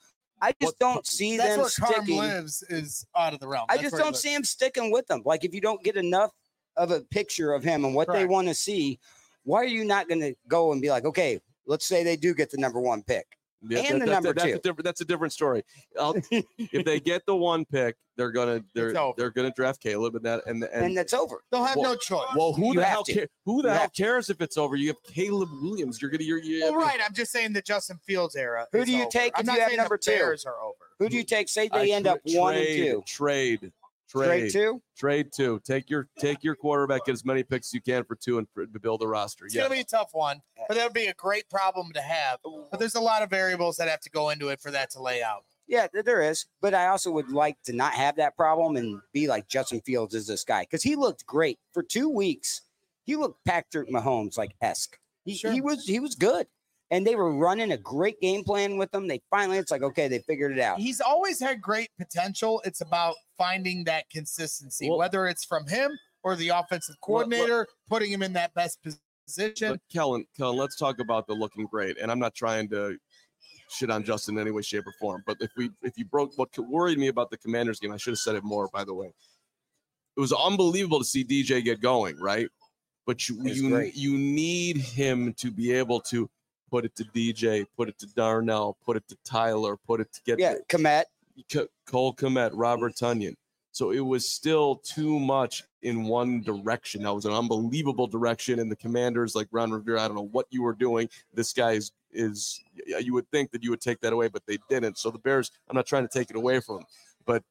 I just What- don't see That's them where Carm sticking. lives is out of the realm. I That's just where he don't lives. see him sticking with them. Like if you don't get enough of a picture of him and what they Correct. want to see, why are you not going to go and be like, okay, let's say they do get the number one pick. Yeah, and the that's, number that's two. A different, that's a different story. I'll, if they get the one pick, they're gonna they're It's over. they're gonna draft Caleb and that and And, and. that's over. They'll have Well- no choice. well, who You the have hell to. cares? Who the You hell have to. cares if it's over? You have Caleb Williams. You're gonna you're, you Well, right. I'm just saying the Justin Fields era. Who is do you over. take I'm if not you have saying number the two? Bears are over. Who do you take? Say I they end tra- up one and trade, two. Trade, Trade trade, two? trade two. Take your take your quarterback, get as many picks as you can for two, and for, to build a roster. It's Yeah, gonna be a tough one, but that would be a great problem to have. But there's a lot of variables that have to go into it for that to lay out. Yeah, th- there is. But I also would like to not have that problem and be like Justin Fields is this guy because he looked great for two weeks. He looked Patrick Mahomes like esque. He, Sure. he was he was good, and they were running a great game plan with him. They finally, it's like okay, they figured it out. He's always had great potential. It's about finding that consistency, Well- whether it's from him or the offensive Well, well- coordinator, putting him in that best position. but Kellen, Kellen, let's talk about the looking great. And I'm not trying to shit on Justin in any way, shape, or form. But if we if you broke what worried me about the Commanders game, I should have said it more. By the way, it was unbelievable to see D J get going, right? But you It's you, great. you need him to be able to put it to D J, put it to Darnell, put it to Tyler, put it to get Yeah, Komet. C- Cole Kmet, Robert Tunyon. So it was still too much in one direction. That was an unbelievable direction. And the Commanders, like Ron Rivera, I don't know what you were doing. This guy is, is you would think that you would take that away, but they didn't. So the Bears, I'm not trying to take it away from them. But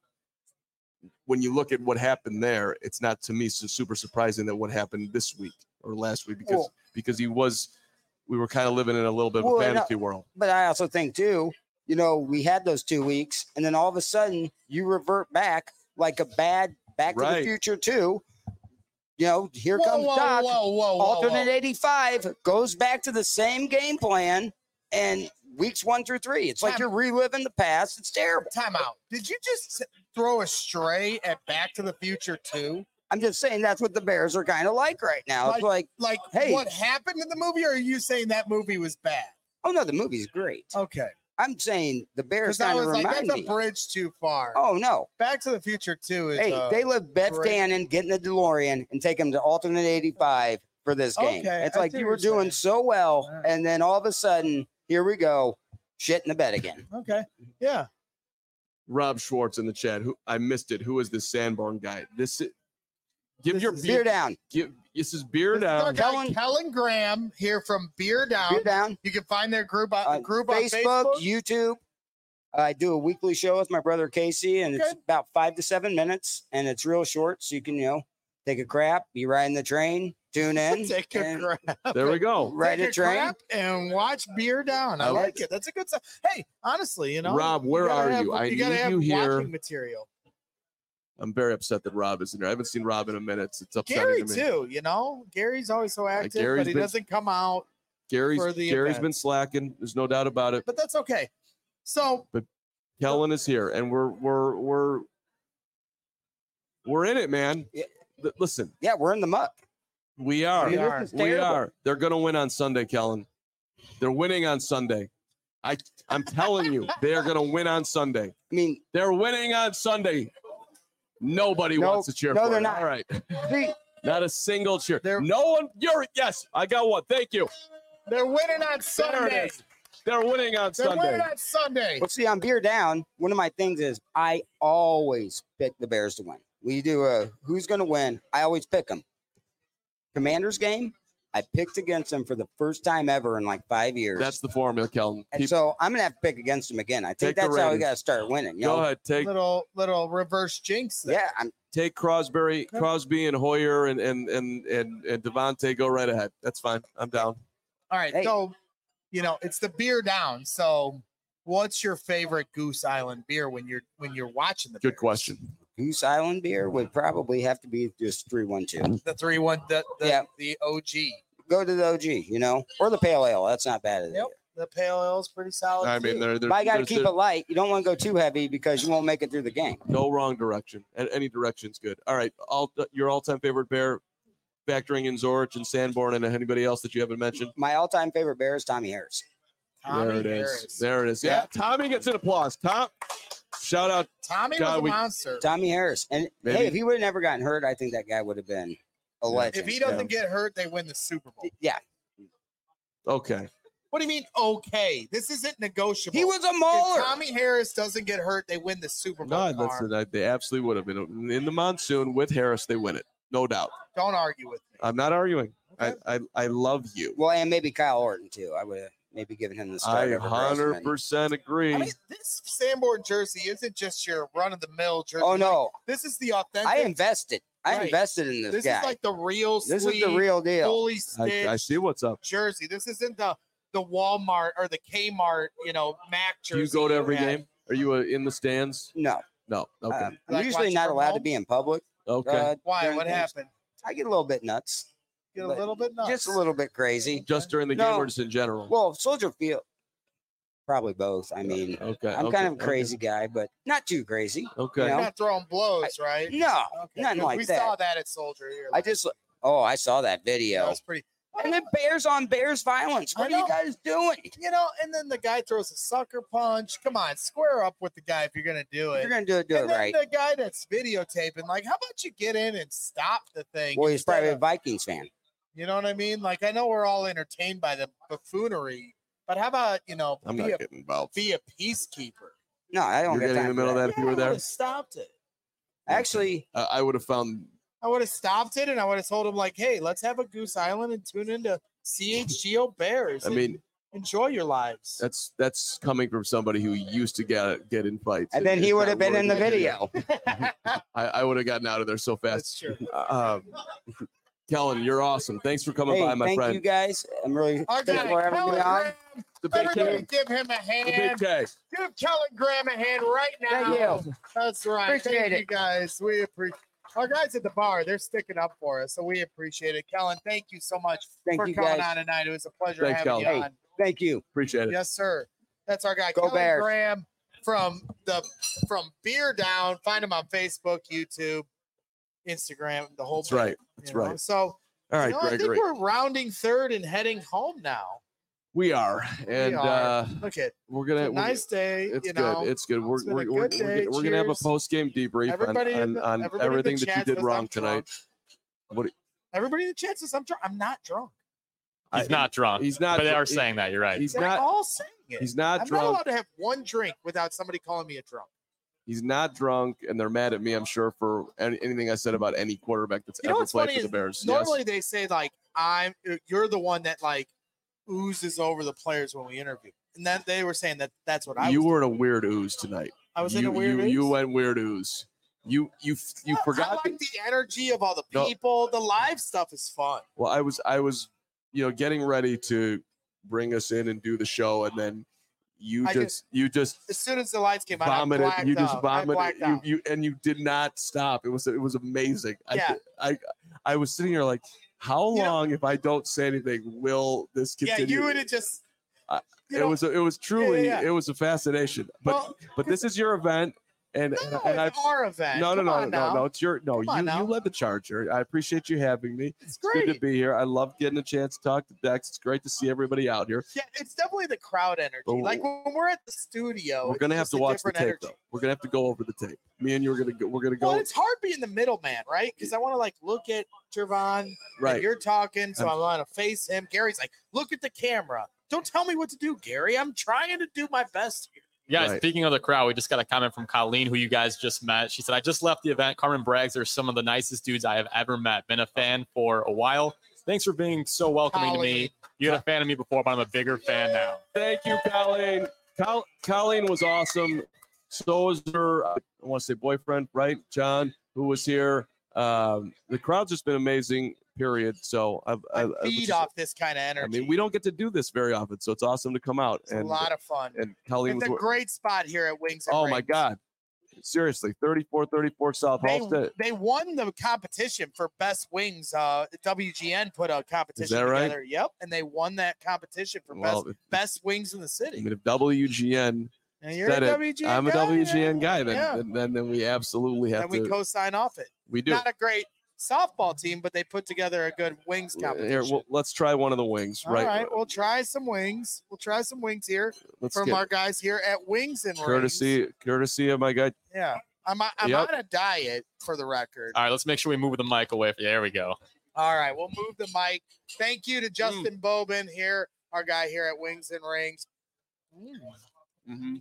when you look at what happened there, it's not to me so super surprising that what happened this week or last week because Well- because he was, we were kind of living in a little bit of Well, a and I- fantasy world. But I also think too, you know, we had those two weeks, and then all of a sudden you revert back like a bad Back to Right. the Future two. You know, here Whoa, comes whoa, Doc. whoa, whoa, whoa, Alternate whoa. eighty-five goes back to the same game plan, and weeks one through three, it's like Time- you're reliving the past. It's terrible. Time out. Did you just throw a stray at Back to the Future two? I'm just saying that's what the Bears are kind of like right now. It's like, Like, Hey. what happened in the movie, or are you saying that movie was bad? oh no, the movie's great. Okay. I'm saying the Bears Because I kind of was like, remind that's a me. bridge too far. Oh no. Back to the Future two is. Hey, uh, they let Beth great. Cannon get in the DeLorean and take him to alternate eighty-five for this game. Okay, It's I like see you what were you're doing saying. so well, Alright. and then all of a sudden, here we go, shit in the bed again. Okay. Yeah. Rob Schwartz in the chat. Who I missed it. Who is this Sanborn guy? This is, give This your is Beer down, Give this is beer This is our down. guy, Kellen- Kellen Graham here from Beer Down. beer down. You can find their group on, Uh, group Facebook, on Facebook. YouTube. I do a weekly show with my brother Casey, and it's Okay. about five to seven minutes, and it's real short, so you can, you know, take a crap, be riding the train, tune in, Take a and crap. There we go. ride Take a train. crap and watch Beer Down. I I like like it. That's a good stuff. Hey, honestly, you know, Rob, where gotta are have- you? I you gotta need have you here. watching material. I'm very upset that Rob isn't here. I haven't seen Rob in a minute. It's upsetting Gary to me. too. You know, Gary's always so active, Gary's but he been- doesn't come out. Gary's for the Gary's event. been slacking. There's no doubt about it. But that's okay. So Kellen is here, and we're we're we're we're in it, man. Yeah. L- Listen, Yeah, we're in the muck. we are. I mean, We are. this is We terrible. are. They're going to win on Sunday, Kellen. They're winning on Sunday. I I'm telling you, they are going to win on Sunday. I mean, They're winning on Sunday. Nobody No, wants to cheer no, for they're it. not. All right. see, Not a single cheer. They're- No one. You're yes. I got one. Thank you. they're winning on There it Sunday. is. They're winning on They're Sunday. winning on Sunday. well, see, on Beer Down, one of my things is I always pick the Bears to win. We do a who's going to win. I always pick them. Commanders game, I picked against them for the first time ever in like five years. That's the formula, Kellen. and Keep- so I'm going to have to pick against them again. I Take think the that's how we Raiders. got to start winning. You Go know? ahead. Take Little little reverse jinx. there. Yeah, I'm, take Crosby, Okay. Crosby and Hoyer and and and and, and Devontae. Go right ahead. That's fine. I'm down. All right. Hey. So, you know, it's the Beer Down. So, what's your favorite Goose Island beer when you're when you're watching the Good Bears? question. Goose Island beer would probably have to be just three one two. The three one the the, Yeah. the O G. Go to the O G, you know, or the pale ale. That's not bad either. Yep. The pale ale is pretty solid. I mean, too. there, there, But I got to there's- keep there's it light. You don't want to go too heavy because you won't make it through the game. no wrong direction. A- Any direction's good. All right. All your all-time favorite bear, factoring in Zorich and Sanborn and anybody else that you haven't mentioned. My all-time favorite bear is Tommy Harris. Tommy there it is. Harris. There it is. Yeah. Tommy gets an applause. Tom, shout out. Tommy God, was a we- monster. Tommy Harris. And Maybe- hey, if he would have never gotten hurt, I think that guy would have been a legend. If he doesn't get hurt, they win the Super Bowl. yeah, Okay. What do you mean? Okay, this isn't negotiable. he was a If mauler. Tommy Harris doesn't get hurt, they win the Super Bowl. No, Carr. listen, I- they absolutely would have been in the monsoon with Harris. They win it, no doubt. Don't argue with me. I'm not arguing. Okay. I, I I love you. Well, and maybe Kyle Orton too. I would have maybe given him the start. I over hundred Grossman. percent agree. I mean, this Sanborn jersey isn't just your run of the mill jersey. Oh Like, no, this is the authentic. I invested. I Right. invested in this, This guy. is like the real. this is the sleeve, real deal. fully I, stitched I see what's up. jersey. This isn't the the Walmart or the Kmart, you know, Mac Do jersey. you go to every had. game? Are you uh, in the stands? No, No. Okay. um, I'm Like usually watching not from allowed to home? be in public. okay. uh, Why? during What games. happened? I get a little bit nuts. Get a but little bit nuts. Just a little bit crazy. Just during the game No. or just in general? Well, Soldier Field, probably both. I mean, okay. I'm okay, kind of a okay, crazy guy, but not too crazy. Okay. you You're know? not throwing blows, right? No, Okay, nothing 'cause like we that. saw that at Soldier here. I just, oh, I saw that that video. was pretty. And then bears on bears violence. What I are you know. guys doing? You know, and then the guy throws a sucker punch. Come on, square up with the guy if you're gonna do If it. you're gonna do it, do and it then right. the guy that's videotaping, like, how about you get in and stop the thing? Well, he's instead probably a of- Vikings fan. you know what I mean? Like, I know we're all entertained by the buffoonery, but how about, you know, I'm be, not a, getting involved. be a peacekeeper? No, I don't You're get getting in time the middle for of that. that if you Yeah, were I there. would've stopped it. Actually, I, I would have found. I would have stopped it and I would have told him, like, hey, let's have a Goose Island and tune into C H G O Bears. I and mean, enjoy your lives. that's that's coming from somebody who used to get get in fights. and then It- he it's would not have been in the worth it. video. I, I would have gotten out of there so That's fast. true. Uh, Kellen, you're awesome. Thanks for coming Hey, by, my thank friend. you guys. I'm really Our thankful guy, for having me Kellen on. Graham. The big Everybody K. give him a The big hand. K. Give Kellen Graham a hand right now. Thank you. That's right. Appreciate thank it. you guys. We appreciate our guys at the bar. They're sticking up for us, so we appreciate it. Kellen, thank you so much Thank for you coming guys. on tonight. It was a pleasure Thanks, having Kellen. you Hey. on. Thank you. Appreciate it. Yes, sir. That's our guy, Go Kellen Bears. Graham from the from Beer Down. Find him on Facebook, YouTube, Instagram, the whole. That's bit, right. you That's know? right. So, All right, you know, I think Gregory. we're rounding third and heading home now. We are, and are. uh, Look at we're it's gonna. a we're- nice day. It's you good. know, It's good. We're It's been a we're, we're, good we're, day. gonna- we're gonna have a Cheers. post game debrief on, Everybody in on, the- on everybody in the everything that you chat did says wrong I'm tonight. What? everybody in the chat says I'm drunk. I'm not drunk. I- He's not drunk. He's not. But they are he- saying that. You're right. He's They're not. all saying it. He's not I'm not drunk. allowed to have one drink without somebody calling me a drunk. He's not drunk, and they're mad at me. I'm sure for any, anything I said about any quarterback that's You know ever what's played funny for the is Bears. Normally Yes. they say like I'm you're the one that like oozes over the players when we interview. And then they were saying that that's what I You was. were in a weird ooze tonight. I was you, in a weird you, you ooze? went weird ooze. You you you I- forgot. I like the energy of all the No. people. The live stuff is fun. Well, I was I was, you know, getting ready to bring us in and do the show, and then you I just, just- you just As soon as the lights came on, I vomited. blacked You just out. I vomited. blacked You, out. you and you did not stop. It was it was amazing. Yeah. I, I I was sitting here like, how You know- long if I don't say anything will this yeah, continue? you would have just. I- you it know, was a- it was truly yeah. it was a fascination. But well, but this is your event, and and, no, and I it's our event. no no Come no on no now. no it's your no Come on you now. you led the charge here. I appreciate you having me. It's It's great. good to be here. I love getting a chance to talk to Dex. It's great to see everybody out here. Yeah, it's definitely the crowd energy. But like when we're at the studio, We're gonna it's have just to a watch the different tape energy. though. We're gonna have to go over the tape. Me and you are gonna go. We're gonna go Well, it's hard being the middleman, right? Because I want to like look at Trevon. right. And you're talking, so I'm- I want to face him. Gary's like, look at the camera. Don't tell me what to do, Gary. I'm trying to do my best here. Yeah, Right. speaking of the crowd, we just got a comment from Colleen, who you guys just met. She said, I just left the event. Carmen brags they're some of the nicest dudes I have ever met. Been a fan for a while. Thanks for being so welcoming to me. You had a fan of me before, but I'm a bigger fan now. Thank you, Colleen. Col- Colleen was awesome. So was her, I want to say boyfriend, right? John, who was here. Um, the crowd's just been amazing, period. So I've, I I, I was feed just- off this kind of energy. I mean, we don't get to do this very often, so it's awesome to come out. It's and a lot of fun. and Colleen It's was. a great spot here at Wings and Oh my Rings. God! Seriously, thirty-four thirty-four South They, Halstead. they won the competition for best wings. Uh, W G N put a competition that right? together. Yep, and they won that competition for Well, best if- best wings in the I city. mean, if W G N And you're said a it, W G N I'm a guy, W G N yeah. guy, then, Yeah. then, then then we absolutely have and we to. co-sign off it. we do. Not a great softball team, but they put together a good wings competition. Here, well, let's try one of the wings, All right? right, we'll try some wings. We'll try some wings here Let's from get our guys here at Wings and Rings. courtesy, courtesy of my guy. Yeah, I'm I'm Yep. on a diet for the record. All right, let's make sure we move the mic away. From, there we go. All right, we'll move the mic. Thank you Mm. to Justin Bobin here, our guy here at Wings and Rings. Mm, Mm-hmm.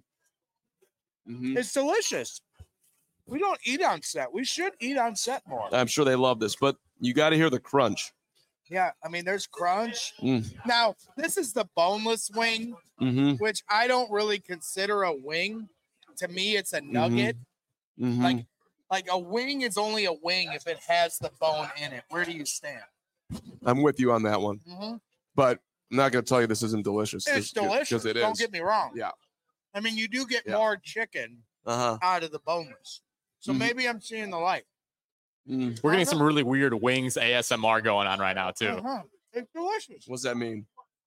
Mm-hmm. it's delicious. We don't eat on set. We should eat on set more. I'm sure they love this, but you got to hear the crunch. Yeah, I mean, there's crunch. Mm. Now, this is the boneless wing, Mm-hmm. which I don't really consider a wing. To me, it's a nugget. Mm-hmm. Like, like a wing is only a wing if it has the bone in it. Where do you stand? I'm with you on that one, Mm-hmm. but I'm not going to tell you this isn't delicious. It's delicious. because it Don't is. get me wrong. Yeah. I mean, you do get Yeah. more chicken Uh huh. out of the boneless. So Mhm. maybe I'm seeing the light. Mm. We're getting some really weird wings A S M R going on right now, too. Uh-huh. It's delicious. What's that mean?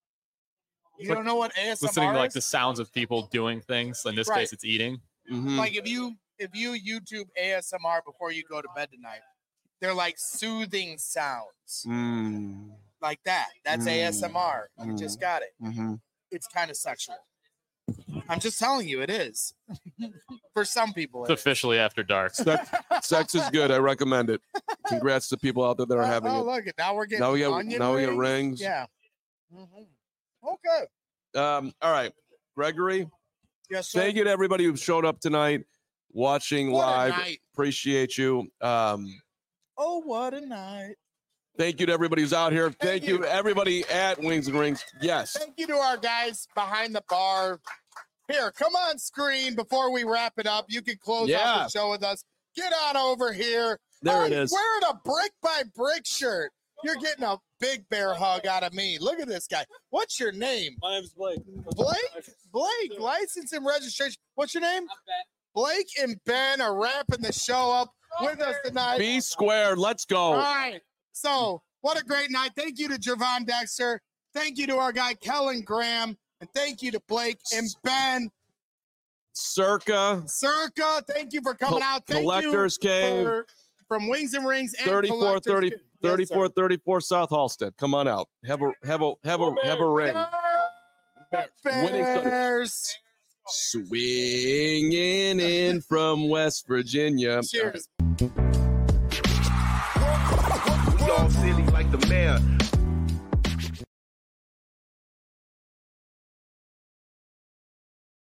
You like don't know what A S M R Listening to like is? the sounds of people doing things. In this Right. case, it's eating. Mm-hmm. Like if you if you YouTube A S M R before you go to bed tonight, they're like soothing sounds. mm. like that. That's Mm. A S M R. You Mm. just got it. Mhm. It's kind of sexual. I'm just telling you, it is. For some people, It's it is. officially after dark. Sex, sex is good. I recommend it. Congrats to people out there that are Oh, having oh, it. look it. Now we're getting Now we get onion now we rings. get rings. Yeah. Mhm. Okay. Um, all right, Gregory. Yes, sir. Thank you to everybody who showed up tonight, watching What a live. night. Appreciate you. Um, Oh, what a night. thank you to everybody who's out here. Thank, Thank you you. to everybody at Wings and Rings. Yes. Thank you to our guys behind the bar. Here, come on screen before we wrap it up. You can close Yeah. out the show with us. Get on over here. There Oh, it he's is. wearing a brick by brick shirt. You're getting a big bear hug out of me. Look at this guy. What's your name? My name's Blake. Blake? Blake, license and registration. What's your name? Blake and Ben are wrapping the show up with us tonight. B squared. Let's All go. right. So, what a great night. Thank you to Javon Dexter. Thank you to our guy, Kellen Graham. And thank you to Blake and Ben. Circa Circa, thank you for coming Col- out. Thank Collectors you Cave. for, from Wings and Rings and thirty-four Collectors thirty, Cave. Yes, sir. thirty-four thirty-four South Halstead. Come on out. Have a have a have a have a ring. Winning Sunday. Bears. Swinging in from West Virginia. Cheers. We all silly like the mayor.